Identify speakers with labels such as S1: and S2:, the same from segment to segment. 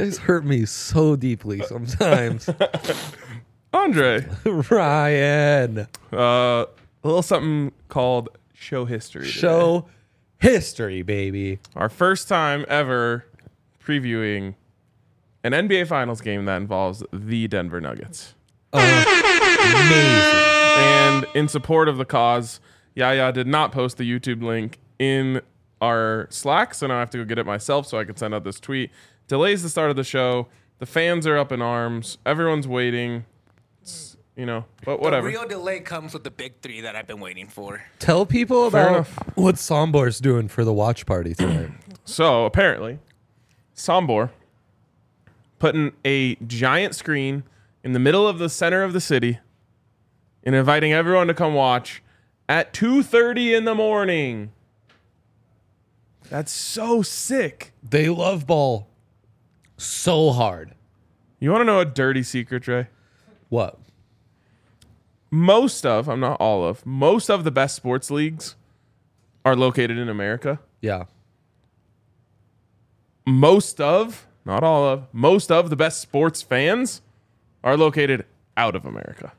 S1: guys hurt me so deeply sometimes.
S2: Andre.
S1: Ryan.
S2: A little something called show history. Today.
S1: Show history, baby.
S2: Our first time ever previewing an NBA Finals game that involves the Denver Nuggets.
S1: Amazing.
S2: And in support of the cause, Yaya did not post the YouTube link in our Slack, so now I have to go get it myself so I can send out this tweet. Delays the start of the show. The fans are up in arms. Everyone's waiting. But whatever.
S3: The real delay comes with the big three that I've been waiting for.
S1: Tell people
S2: Fair
S1: about
S2: enough.
S1: what Sombor's doing for the watch party tonight.
S2: So apparently, Sombor putting a giant screen in the middle of the center of the city and inviting everyone to come watch at 2:30 in the morning. That's so sick.
S1: They love ball so hard.
S2: You want to know a dirty secret, Trey?
S1: What?
S2: Most of the best sports leagues are located in America.
S1: Yeah.
S2: Most of the best sports fans are located out of America.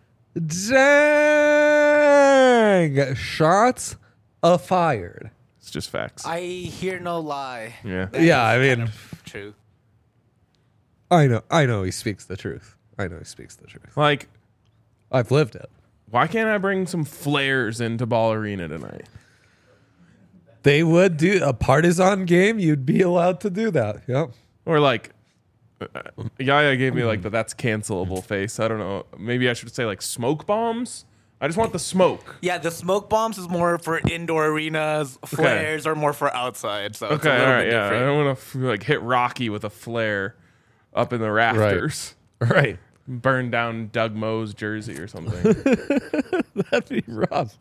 S1: Dang! Shots fired.
S2: It's just facts.
S3: I hear no lie.
S2: Yeah.
S3: That
S1: Yeah, I
S3: is
S1: mean,
S3: kind of true.
S1: I know he speaks the truth.
S2: Like,
S1: I've lived it.
S2: why can't I bring some flares into Ball Arena tonight?
S1: They would do a partisan game. You'd be allowed to do that. Yep.
S2: Or like, Yaya gave me like that's cancelable face. I don't know. Maybe I should say like smoke bombs. I just want the smoke.
S3: Yeah, the smoke bombs is more for indoor arenas. Flares are more for outside. So it's a
S2: Okay, all
S3: little
S2: right,
S3: bit
S2: yeah. I
S3: different.
S2: don't want to like hit Rocky with a flare up in the rafters.
S1: Right.
S2: Burn down Doug Moe's jersey or something.
S1: That'd be rough.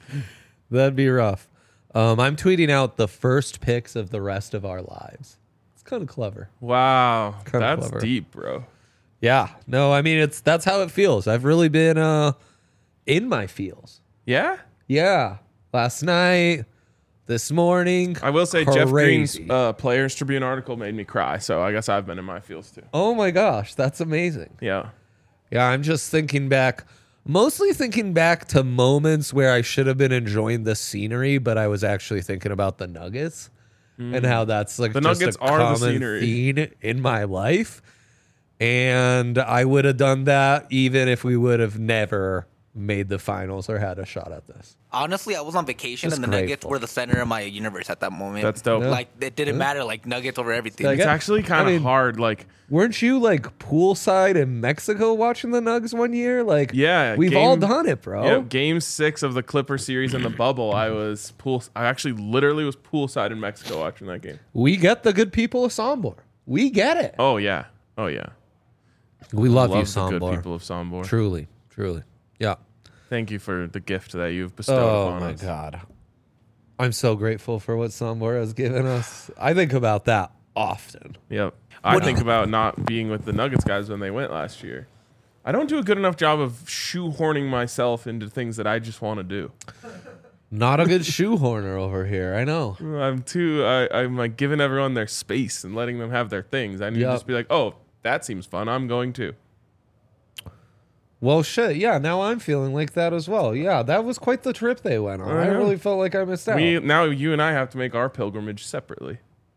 S1: I'm tweeting out the first picks of the rest of our lives. It's kind of clever.
S2: Wow,
S1: Kinda
S2: that's
S1: clever.
S2: deep, bro.
S1: Yeah. No, I mean that's how it feels. I've really been in my feels.
S2: Yeah,
S1: Yeah. Last night, this morning.
S2: I will say Jeff Green's
S1: Crazy.
S2: Players Tribune article made me cry. So I guess I've been in my feels too.
S1: Oh my gosh, that's amazing.
S2: Yeah.
S1: Yeah, I'm just mostly thinking back to moments where I should have been enjoying the scenery, but I was actually thinking about the Nuggets and how that's like
S2: The
S1: just
S2: Nuggets
S1: a
S2: are the
S1: common
S2: scenery.
S1: theme in my life. And I would have done that even if we would have never made the finals or had a shot at this.
S3: Honestly, I was on vacation
S1: Just
S3: and the Nuggets
S1: grateful.
S3: were the center of my universe at that moment.
S2: That's dope.
S1: Yeah.
S3: Like, it didn't matter. Like, Nuggets over everything.
S1: Like,
S2: It's actually kind of
S1: I mean-
S2: hard. Like,
S1: Weren't you like poolside in Mexico watching the Nugs one year? Like,
S2: yeah,
S1: we've all done it, bro.
S2: Yeah, game 6 of the Clipper series in the bubble. I actually literally was poolside in Mexico watching that game.
S1: We get the good people of Sombor. We get it.
S2: Oh yeah.
S1: We love you,
S2: Love the good
S1: Sombor.
S2: people of Sombor.
S1: Truly. Yeah.
S2: Thank you for the gift that you've bestowed upon us.
S1: God. I'm so grateful for what Sombor has given us. I think about that often.
S2: Yep. I think about not being with the Nuggets guys when they went last year. I don't do a good enough job of shoehorning myself into things that I just want to do.
S1: Not a good shoehorner over here. I know.
S2: I'm like giving everyone their space and letting them have their things. I need to
S1: Yep.
S2: just be like, oh, that seems fun. I'm going to.
S1: Well, shit. Yeah, now I'm feeling like that as well. Yeah, that was quite the trip they went on. I
S2: know.
S1: really felt like I missed out.
S2: Now you and I have to make our pilgrimage separately.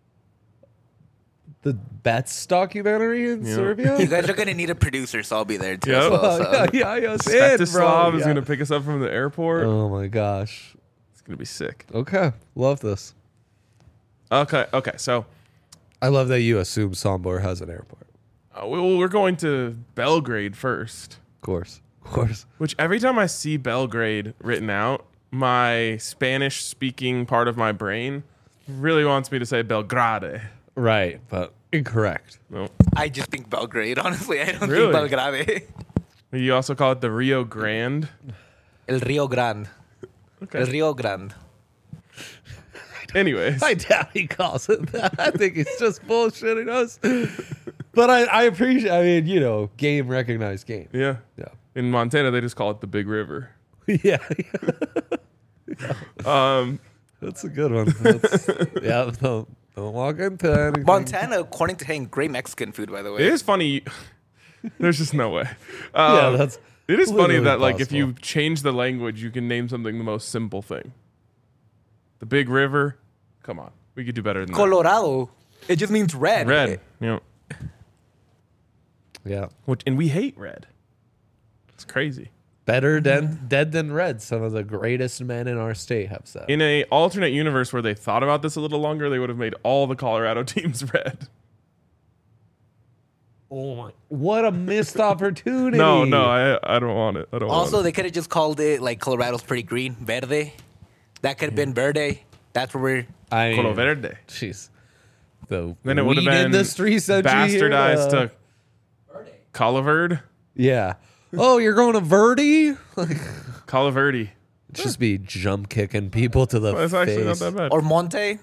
S1: The Betts documentary in
S3: You
S1: Serbia?
S3: guys are going to need a producer, so I'll be there too.
S2: Yep.
S3: as well, so.
S1: yeah, in, bro.
S2: Svetislav is
S1: Yeah.
S2: going to pick us up from the airport.
S1: Oh, my gosh.
S2: It's going to be sick.
S1: Okay. Love this.
S2: Okay. So
S1: I love that you assume Sombor has an airport.
S2: we're going to Belgrade first.
S1: Of course.
S2: Which every time I see Belgrade written out, my Spanish-speaking part of my brain really wants me to say Belgrade.
S1: Right, but incorrect.
S2: No.
S3: I just think Belgrade, honestly. I don't
S2: Really?
S3: think Belgrade.
S2: You also call it the Rio Grande.
S3: El Rio Grande.
S2: Okay.
S3: El Rio Grande.
S2: Anyways.
S1: I doubt he calls it that. I think he's just bullshitting us. But I appreciate, game recognized game.
S2: Yeah.
S1: Yeah.
S2: In Montana, they just call it the Big River.
S1: Yeah. That's a good one. Don't walk into anything.
S3: Montana, according to him, great Mexican food, by the way.
S2: It is funny. There's just no way.
S1: Yeah, that's.
S2: It is funny
S1: literally
S2: that like if
S1: possible.
S2: you change the language, you can name something the most simple thing. The Big River. Come on, we could do better than
S3: Colorado, it just means red.
S2: that. Red. You know,
S1: Yeah.
S2: and we hate red. It's crazy.
S1: Better dead than red. Some of the greatest men in our state have said.
S2: In a alternate universe where they thought about this a little longer, they would have made all the Colorado teams red.
S1: Oh my! What a missed opportunity.
S2: No, I don't want it. I don't
S3: Also,
S2: want
S3: they could have just called it like Colorado's pretty green, verde. That could have been verde. That's where we're.
S1: I
S2: it. Colo Verde.
S1: Jeez. The
S2: Then it would have
S1: weed
S2: been
S1: industry said
S2: bastardized to Coliverde.
S1: Yeah. Oh, you're going to Verdi? Like,
S2: Coliverde.
S1: just be jump kicking people to the
S2: Well, it's actually not
S1: face.
S2: that bad.
S3: Or Monte,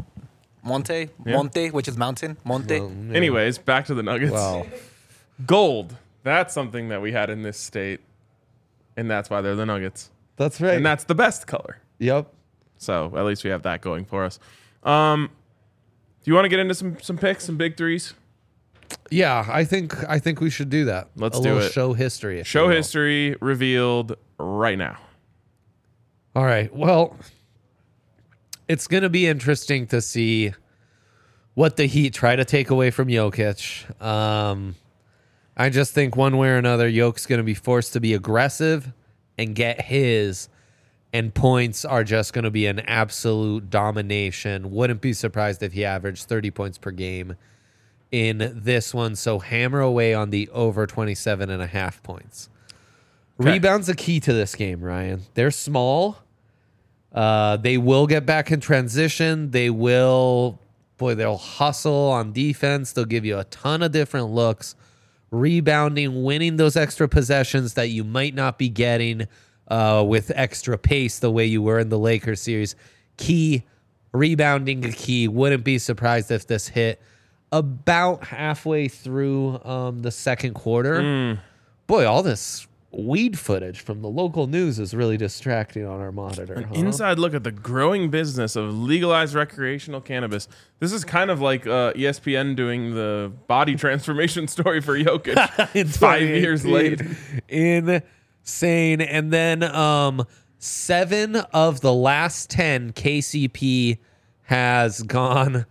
S3: which is mountain. Monte.
S1: Well, yeah.
S2: Anyways, back to the Nuggets.
S1: Wow.
S2: Gold. That's something that we had in this state, and that's why they're the Nuggets.
S1: That's right.
S2: And that's the best color.
S1: Yep.
S2: So at least we have that going for us. Do you want to get into some picks, some big threes?
S1: Yeah, I think we should do that.
S2: Let's
S1: a
S2: do
S1: little
S2: it.
S1: Show history. if
S2: Show
S1: you will.
S2: history revealed right now.
S1: All right. Well, it's going to be interesting to see what the Heat try to take away from Jokic. I just think one way or another, Jokic's going to be forced to be aggressive and get his, and points are just going to be an absolute domination. Wouldn't be surprised if he averaged 30 points per game in this one. So hammer away on the over 27.5 points.
S2: Okay.
S1: Rebounds a key to this game, Ryan. They're small. They will get back in transition. They'll hustle on defense. They'll give you a ton of different looks. Rebounding, winning those extra possessions that you might not be getting with extra pace the way you were in the Lakers series. Key. Rebounding a key. Wouldn't be surprised if this hit about halfway through the second quarter. Boy, all this weed footage from the local news is really distracting on our monitor. Huh?
S2: Inside look at the growing business of legalized recreational cannabis. This is kind of like ESPN doing the body transformation story for Jokic
S1: In
S2: 5 years
S1: 2018.
S2: late.
S1: Insane. And then 7 of the last 10 KCP has gone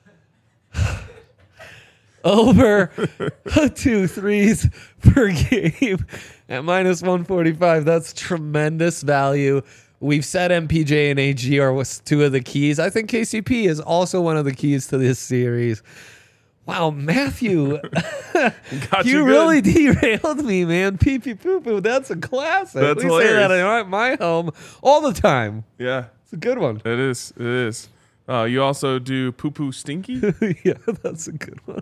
S1: over 2 threes per game at minus 145. That's tremendous value. We've said MPJ and AG are 2 of the keys. I think KCP is also one of the keys to this series. Wow, Matthew,
S2: Got
S1: you
S2: good.
S1: really derailed me, man. Pee pee poo poo. That's a classic.
S2: That's
S1: we say that
S2: hilarious.
S1: in my home all the time.
S2: Yeah,
S1: It's a good one.
S2: it is. It is. You also do poo poo stinky.
S1: Yeah, that's a good one.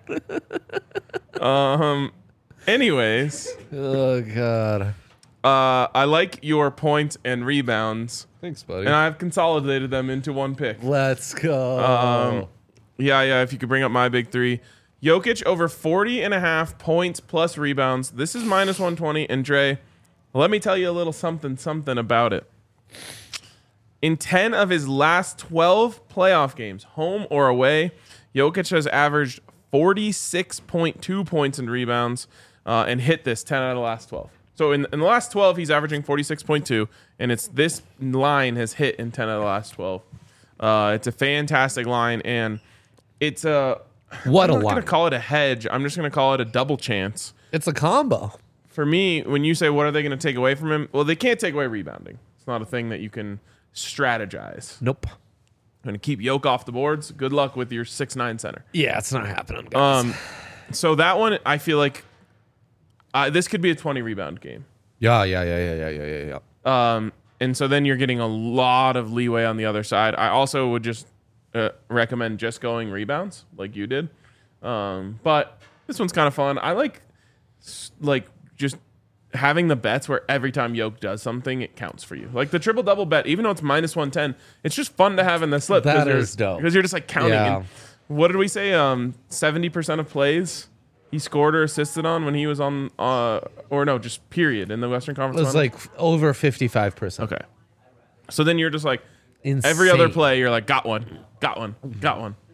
S2: Anyways,
S1: Oh God.
S2: I like your points and rebounds,
S1: Thanks, buddy.
S2: and I've consolidated them into one pick.
S1: Let's go.
S2: Yeah. If you could bring up my big three. Jokic over 40.5 points plus rebounds. This is minus 120. And Dre, let me tell you a little something about it. In 10 of his last 12 playoff games, home or away, Jokic has averaged 46.2 points and rebounds and hit this 10 out of the last 12. So in the last 12, he's averaging 46.2, and it's this line has hit in 10 out of the last 12. It's a fantastic line, and it's a...
S1: What a
S2: I'm not going
S1: line.
S2: to call it a hedge. I'm just going to call it a double chance.
S1: It's a combo.
S2: For me, when you say what are they going to take away from him, well, they can't take away rebounding. It's not a thing that you can strategize.
S1: Nope.
S2: Going to keep Yoke off the boards. Good luck with your 6'9" center.
S1: Yeah, it's not happening, guys.
S2: So that one, I feel like this could be a 20 rebound game.
S1: Yeah.
S2: And so then you're getting a lot of leeway on the other side. I also would just recommend just going rebounds like you did. But this one's kind of fun. I like just having the bets where every time Yoke does something, it counts for you. Like the triple double bet, even though it's minus 110, it's just fun to have in the slip.
S1: That is dope.
S2: Because you're just like counting.
S1: Yeah.
S2: And what did we say? 70% of plays he scored or assisted on when he was on, or no, just period in the Western
S1: It
S2: Conference
S1: was
S2: Finals?
S1: like over 55%.
S2: Okay. So then you're just like,
S1: Insane.
S2: every other play, you're like, got one.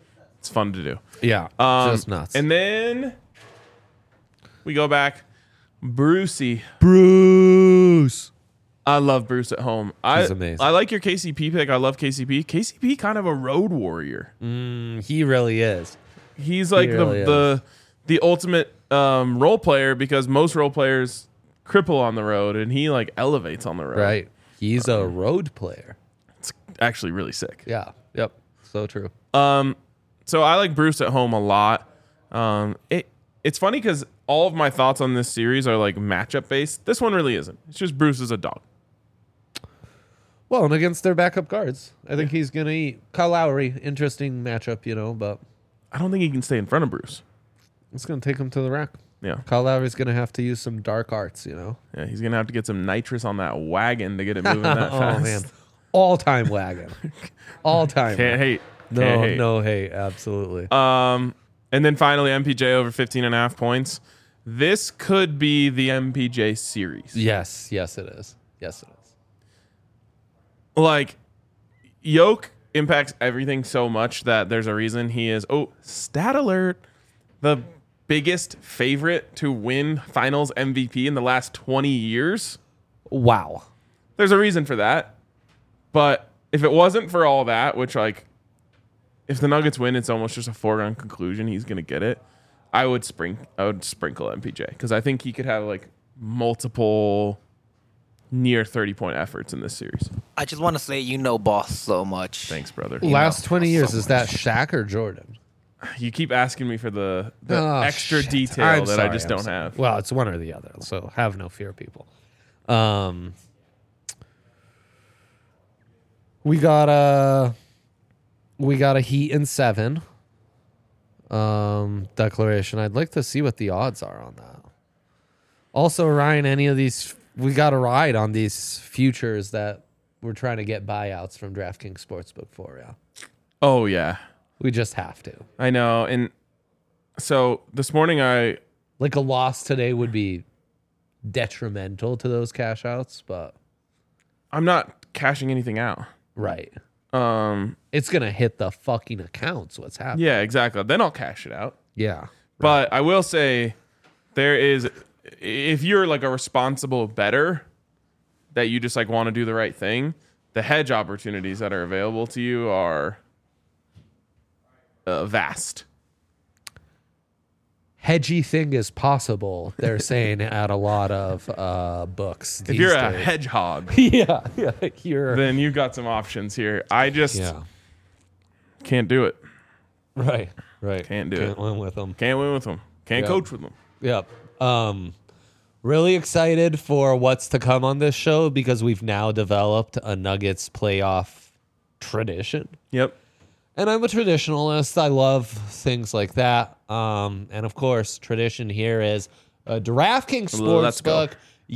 S2: It's fun to do.
S1: Yeah, just nuts.
S2: And then we go back. Brucey.
S1: Bruce.
S2: I love Bruce at home.
S1: He's amazing.
S2: I like your KCP pick. I love KCP. KCP kind of a road warrior.
S1: He really is.
S2: He's like
S1: really
S2: the ultimate role player because most role players cripple on the road and he like elevates on the road.
S1: Right. He's a road player.
S2: It's actually really sick.
S1: Yeah. Yep. So true.
S2: So I like Bruce at home a lot. It's funny because all of my thoughts on this series are like matchup based. This one really isn't. It's just Bruce is a dog.
S1: Well, and against their backup guards, I think he's going to eat. Kyle Lowry, interesting matchup, but
S2: I don't think he can stay in front of Bruce.
S1: it's going to take him to the rack.
S2: Yeah.
S1: Kyle Lowry's going to have to use some dark arts,
S2: Yeah, he's going to have to get some nitrous on that wagon to get it moving that fast.
S1: Oh, man. All-time wagon. All-time.
S2: Can't hate.
S1: No hate. Absolutely.
S2: And then finally, MPJ over 15.5 points. This could be the MPJ series.
S1: Yes, it is. Yes, it is.
S2: Like, Yoke impacts everything so much that there's a reason he is, stat alert, the biggest favorite to win finals MVP in the last 20 years.
S1: Wow.
S2: There's a reason for that. But if it wasn't for all that, which, like, if the Nuggets win, it's almost just a foregone conclusion he's going to get it. I would sprinkle MPJ because I think he could have, like, multiple near 30-point efforts in this series.
S3: I just want to say boss so much.
S2: Thanks, brother.
S1: Last 20 years, is that Shaq or Jordan?
S2: You keep asking me for the extra detail
S1: I'm
S2: that
S1: sorry,
S2: I just
S1: I'm
S2: don't
S1: sorry.
S2: have.
S1: Well, it's one or the other, so have no fear, people. We got a Heat in 7 declaration. I'd like to see what the odds are on that. Also, Ryan, any of these, we got a ride on these futures that we're trying to get buyouts from DraftKings Sportsbook for, yeah.
S2: Oh, yeah.
S1: We just have to.
S2: I know. And so this morning
S1: Like a loss today would be detrimental to those cash outs, but
S2: I'm not cashing anything out.
S1: right. It's going to hit the fucking accounts what's happening.
S2: Yeah, exactly. Then I'll cash it out.
S1: Yeah.
S2: But I will say there is, if you're like a responsible bettor that you just like want to do the right thing, the hedge opportunities that are available to you are vast.
S1: Hedgy thing is possible, they're saying at a lot of books.
S2: If you're a hedgehog,
S1: yeah, you're
S2: then you've got some options here. I just
S1: yeah,
S2: can't do it.
S1: right.
S2: Can't do it.
S1: Can't win with them.
S2: Can't win with them. Can't
S1: Yeah.
S2: coach with them.
S1: Yep. Really excited for what's to come on this show because we've now developed a Nuggets playoff tradition.
S2: Yep.
S1: And I'm a traditionalist. I love things like that. And of course, tradition here is a DraftKings
S2: Let's go.
S1: Sportsbook. Use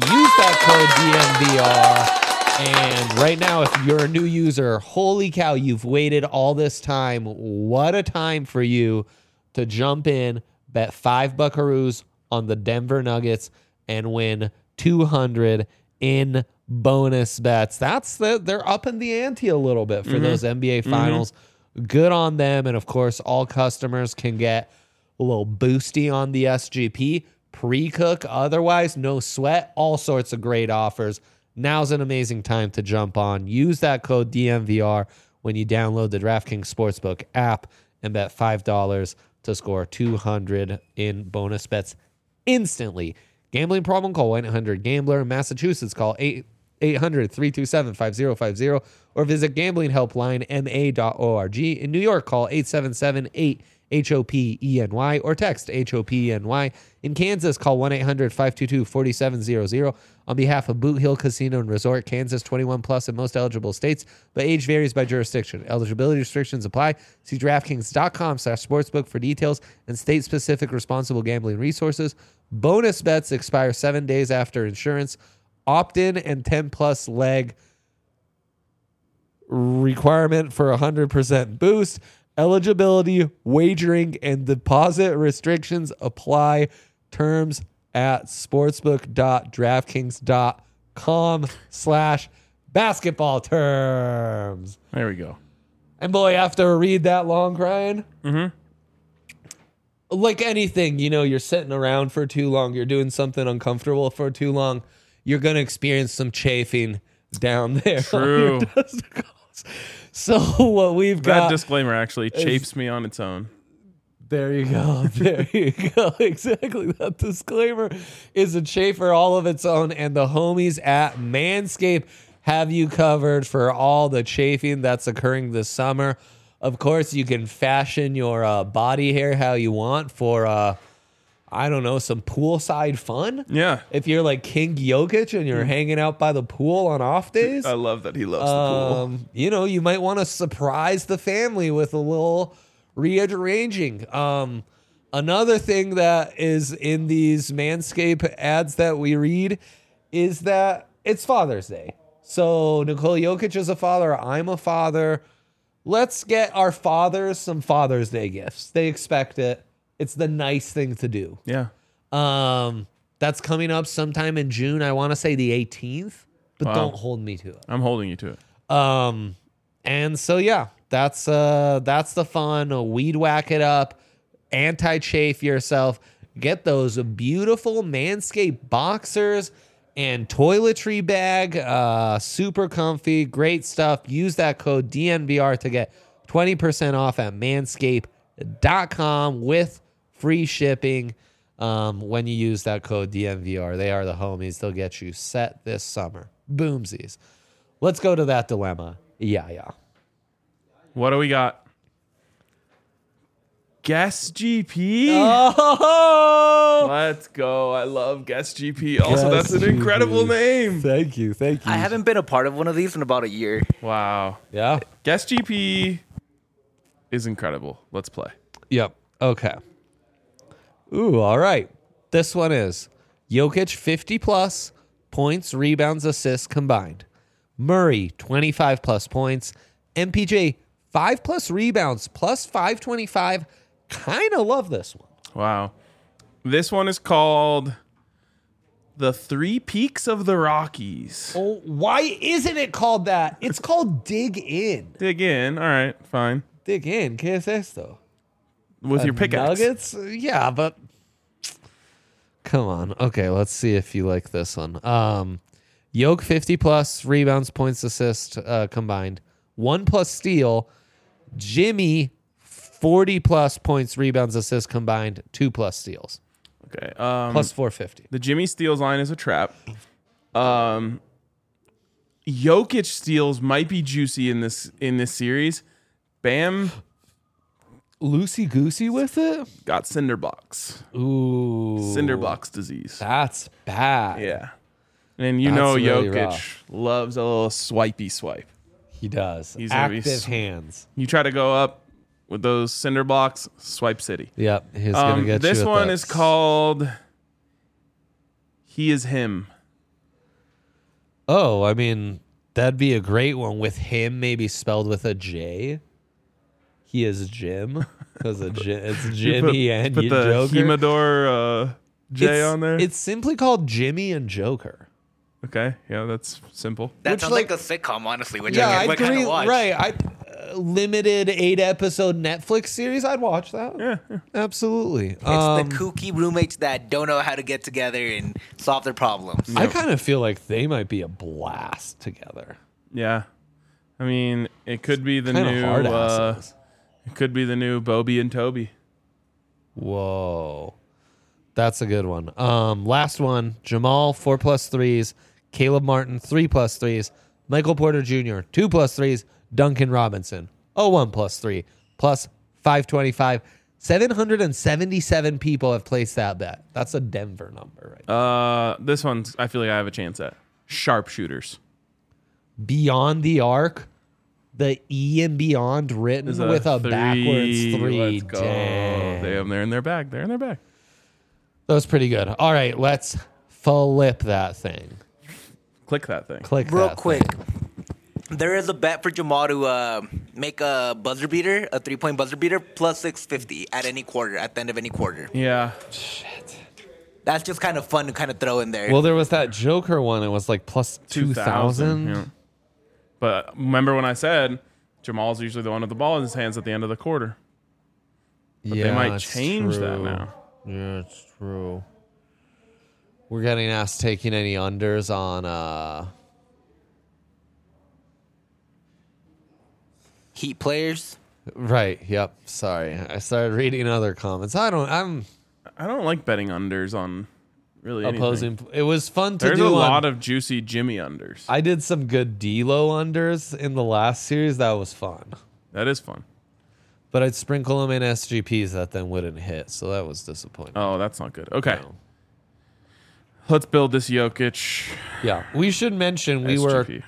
S1: that code DMVR. And right now, if you're a new user, holy cow, you've waited all this time. What a time for you to jump in, bet 5 buckaroos on the Denver Nuggets, and win 200 in bonus bets. They're upping the ante a little bit for those NBA Finals. Good on them. And of course, all customers can get a little boosty on the SGP. Pre-cook, otherwise, no sweat. All sorts of great offers. Now's an amazing time to jump on. Use that code DMVR when you download the DraftKings Sportsbook app and bet $5 to score 200 in bonus bets instantly. Gambling problem? Call 1-800-GAMBLER. In Massachusetts, call 800-327-5050 or visit gamblinghelplinema.org. In New York, call 877-8-HOPENY or text HOPENY. In Kansas, call 1-800-522-4700. On behalf of Boot Hill Casino and Resort, Kansas, 21 plus in most eligible states, but age varies by jurisdiction. Eligibility restrictions apply. See DraftKings.com/sportsbook for details and state-specific responsible gambling resources. Bonus bets expire 7 days after insurance. Opt-in and 10-plus leg requirement for 100% boost. Eligibility, wagering, and deposit restrictions apply. Terms at sportsbook.draftkings.com/basketball terms.
S2: There we go.
S1: And boy, after a read that long, Ryan, like anything, you're sitting around for too long, you're doing something uncomfortable for too long, you're going to experience some chafing down there.
S2: True.
S1: So what we've
S2: That
S1: got...
S2: disclaimer actually chafes me on its own.
S1: There you go. There you go. Exactly. That disclaimer is a chafer all of its own. And the homies at Manscaped have you covered for all the chafing that's occurring this summer. Of course, you can fashion your body hair how you want for, I don't know, some poolside fun.
S2: Yeah.
S1: If you're like King Jokic and you're hanging out by the pool on off days.
S2: I love that he loves the pool.
S1: You might want to surprise the family with a little rearranging. Another thing that is in these Manscaped ads that we read is that it's Father's Day. So Nikola Jokic is a father. I'm a father. Let's get our fathers some Father's Day gifts. They expect it. It's the nice thing to do.
S2: Yeah.
S1: That's coming up sometime in June. I want to say the 18th, but
S2: Wow.
S1: don't hold me to it.
S2: I'm holding you to it.
S1: And so yeah, that's the fun. Weed whack it up, anti-chafe yourself. Get those beautiful Manscaped boxers and toiletry bag. Super comfy, great stuff. Use that code DNVR to get 20% off at manscaped.com with free shipping. When you use that code DNVR, they are the homies. They'll get you set this summer. Boomsies. Let's go to that dilemma. Yeah.
S2: What do we got? Guess GP.
S1: Oh,
S2: Let's go. I love Guess GP. Also, that's an incredible name.
S1: Thank you.
S3: I haven't been a part of one of these in about a year.
S2: Wow.
S1: Yeah.
S2: Guess GP is incredible. Let's play.
S1: Yep. Okay. Ooh, all right. This one is Jokic 50 plus points, rebounds, assists combined. Murray 25 plus points. MPJ 5 plus rebounds plus 525. Kind of love this one.
S2: Wow. This one is called The Three Peaks of the Rockies.
S1: Oh, why isn't it called that? It's called Dig In.
S2: Dig in. All right, fine.
S1: Dig In. ¿Qué es esto?
S2: With your pickaxe.
S1: Nuggets? Yeah, but come on. Okay, let's see if you like this one. Yoke 50 plus rebounds, points, assists combined. 1 plus steal. Jimmy 40 plus points, rebounds, assists combined. 2 plus steals.
S2: Okay.
S1: Plus 450.
S2: The Jimmy steals line is a trap. Jokic steals might be juicy in this series. Bam
S1: Loosey goosey with it?
S2: got cinder blocks.
S1: Ooh.
S2: Cinder blocks disease.
S1: That's bad.
S2: Yeah. And you
S1: That's
S2: know
S1: really
S2: Jokic
S1: rough.
S2: loves a little swipey swipe.
S1: He does.
S2: He's gonna be
S1: Active hands.
S2: You try to go up with those cinder blocks, swipe city.
S1: Yep. He's going to get
S2: This
S1: you with
S2: one
S1: that.
S2: is called He Is Him.
S1: Oh, I mean, that'd be a great one with him maybe spelled with a J. He is Jim. Because it's Jimmy and
S2: put
S1: you
S2: the
S1: Joker.
S2: Humidor J on there.
S1: It's simply called Jimmy and Joker.
S2: Okay, yeah, that's simple.
S3: That
S1: Which,
S3: sounds
S1: like-
S3: like a sitcom, honestly. Which
S1: Yeah,
S3: I
S1: I'd
S3: would kind
S1: agree.
S3: of watch.
S1: Right. Limited 8-episode Netflix series. I'd watch that.
S2: Yeah.
S1: Absolutely.
S3: It's the kooky roommates that don't know how to get together and solve their problems.
S1: I kind of feel like they might be a blast together.
S2: Yeah. I mean, it could be the
S1: Kind of
S2: new
S1: hard asses.
S2: it could be the new Bobby and Toby.
S1: Whoa. That's a good one. Last one. Jamal, 4 plus threes. Caleb Martin, 3 plus threes. Michael Porter Jr., 2 plus threes. Duncan Robinson, 1 plus 3, plus 525. 777 people have placed that bet. That's a Denver number, right?
S2: This one's I feel like I have a chance at. Sharpshooters.
S1: Beyond the arc, the E in beyond written
S2: Is
S1: with a backwards 3.
S2: Let's go.
S1: Dang.
S2: They're in their bag. They're in their bag.
S1: That was pretty good. All right, let's flip that thing.
S2: Click that thing.
S1: Click
S3: Real
S1: that
S3: quick,
S1: thing.
S3: there is a bet for Jamal to make a buzzer beater, a 3-point buzzer beater, plus 650 at any quarter, at the end of any quarter.
S2: Yeah.
S3: That's just kind of fun to kind of throw in there.
S1: Well, there was that Joker one. It was like plus 2,000.
S2: Yeah. But remember when I said Jamal's usually the one with the ball in his hands at the end of the quarter. But
S1: yeah,
S2: they might
S1: it's
S2: change that
S1: true.
S2: now.
S1: Yeah, it's true. We're getting asked taking any unders on
S3: Heat players.
S1: right, yep. Sorry. I started reading other comments. I'm
S2: I don't like betting unders on really anything.
S1: opposing. It was fun to
S2: There's
S1: do
S2: a
S1: on-
S2: lot of juicy Jimmy unders.
S1: I did some good D-Lo unders in the last series. That was fun.
S2: That is fun.
S1: But I'd sprinkle them in SGPs that then wouldn't hit. So that was disappointing.
S2: Oh, that's not good. Okay.
S1: No.
S2: Let's build this Jokic.
S1: Yeah. We should mention we were
S2: SGP.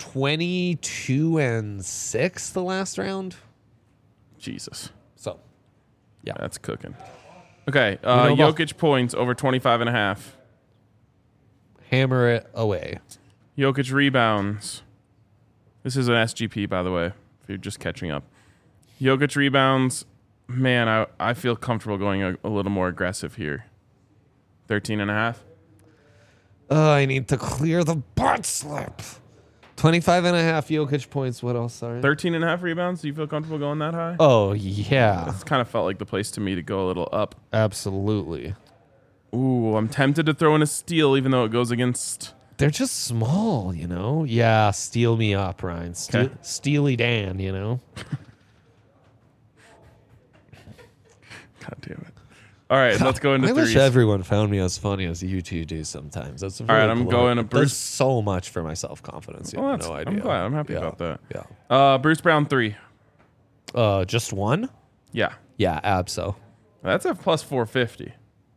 S1: 22-6 the last round.
S2: Jesus.
S1: So, yeah.
S2: That's cooking. Okay.
S1: know about-
S2: Jokic points over 25.5.
S1: Hammer it away.
S2: Jokic rebounds. This is an SGP, by the way, if you're just catching up. Jokic rebounds. Man, I feel comfortable going a little more aggressive here. 13.5.
S1: I need to clear the butt slip. 25.5 Jokic points. What else? Sorry.
S2: 13.5 rebounds. Do you feel comfortable going that high?
S1: Oh, yeah.
S2: It's kind of felt like the place to me to go a little up.
S1: Absolutely.
S2: Ooh, I'm tempted to throw in a steal, even though it goes against.
S1: They're just small, you know? Yeah, steal me up, Ryan.
S2: Okay.
S1: Steely Dan, you know?
S2: God damn it! All right, let's go into
S1: I
S2: threes.
S1: wish everyone found me as funny as you two do sometimes. That's really
S2: right, I'm
S1: cool.
S2: going to
S1: It does
S2: Bruce-
S1: so much for my self-confidence. You
S2: Well,
S1: have
S2: that's-
S1: no
S2: I'm
S1: idea.
S2: glad. I'm happy
S1: Yeah,
S2: about that.
S1: Yeah.
S2: Bruce Brown 3.
S1: Just one?
S2: Yeah,
S1: Yeah, abso.
S2: that's a plus 450.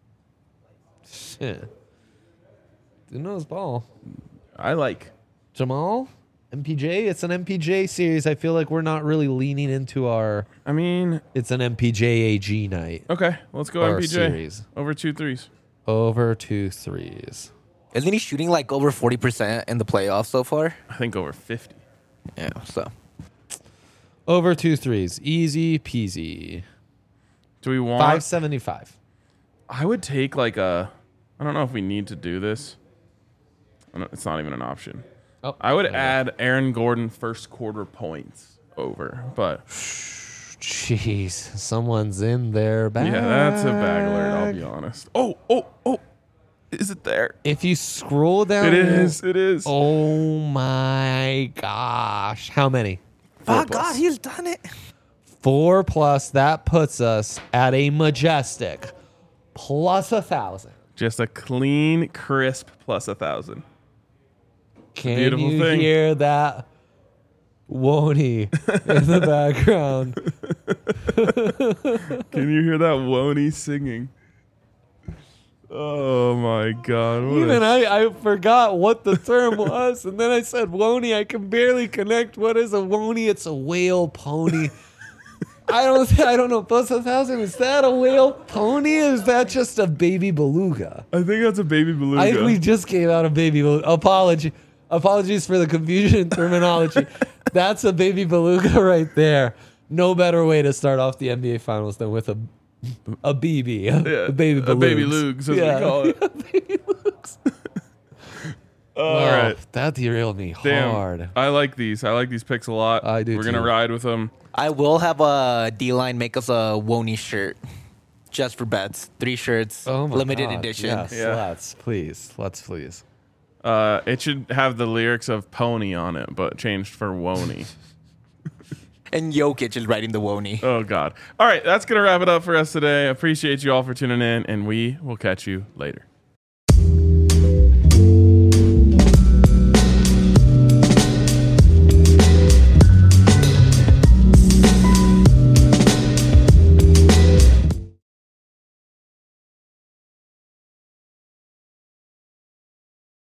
S1: Shit. Didn't know his ball.
S2: I like.
S1: Jamal? MPJ? It's an MPJ series. I feel like we're not really leaning into our...
S2: I mean,
S1: It's an MPJ AG night.
S2: okay, let's go
S1: Or
S2: MPJ
S1: series.
S2: over 2 threes.
S1: Over 2 threes.
S3: Isn't he shooting like over 40% in the playoffs so far?
S2: I think over 50.
S3: Yeah, so.
S1: Over 2 threes. Easy peasy.
S2: Do we want?
S1: 575.
S2: I would take like a. I don't know if we need to do this. It's not even an option.
S1: Oh,
S2: I would
S1: there we go.
S2: add Aaron Gordon first quarter points over, but
S1: Jeez, someone's in their bag.
S2: yeah, that's a bag alert. I'll be honest. Oh! Is it there?
S1: If you scroll down,
S2: It is. It is.
S1: Oh my gosh! How many?
S3: Oh,
S2: plus.
S3: God, he's done it.
S1: 4 plus. That puts us at a majestic plus 1,000.
S2: Just a clean, crisp plus 1,000.
S1: Can
S2: beautiful
S1: you
S2: thing.
S1: hear that? Woney in the background.
S2: Can you hear that Woney singing? Oh my God! what a-
S1: Even I forgot what the term was, and then I said woney. I can barely connect. What is a woney? It's a whale pony. I don't know. Plus 1,000. Is that a whale pony? Or is that just a baby beluga?
S2: I think that's a baby beluga.
S1: We just gave out a baby beluga. Apologies for the confusion in terminology. That's a baby beluga right there. No better way to start off the NBA Finals than with a BB, a baby beluga.
S2: a baby lugs, as we call it.
S1: baby lugs.
S2: All right.
S1: That derailed me
S2: Damn.
S1: hard.
S2: I like these. I like these picks a lot.
S1: I do
S2: We're gonna
S1: too.
S2: ride with them.
S3: I will have a D-line make us a Woney shirt just for bets. 3 shirts,
S1: Oh my
S3: limited
S1: God.
S3: edition.
S1: Yes,
S2: Yeah.
S1: let's please.
S2: It should have the lyrics of Pony on it, but changed for Woney.
S3: And Jokic is writing the Woney.
S2: Oh God! All right, that's gonna wrap it up for us today. Appreciate you all for tuning in, and we will catch you later.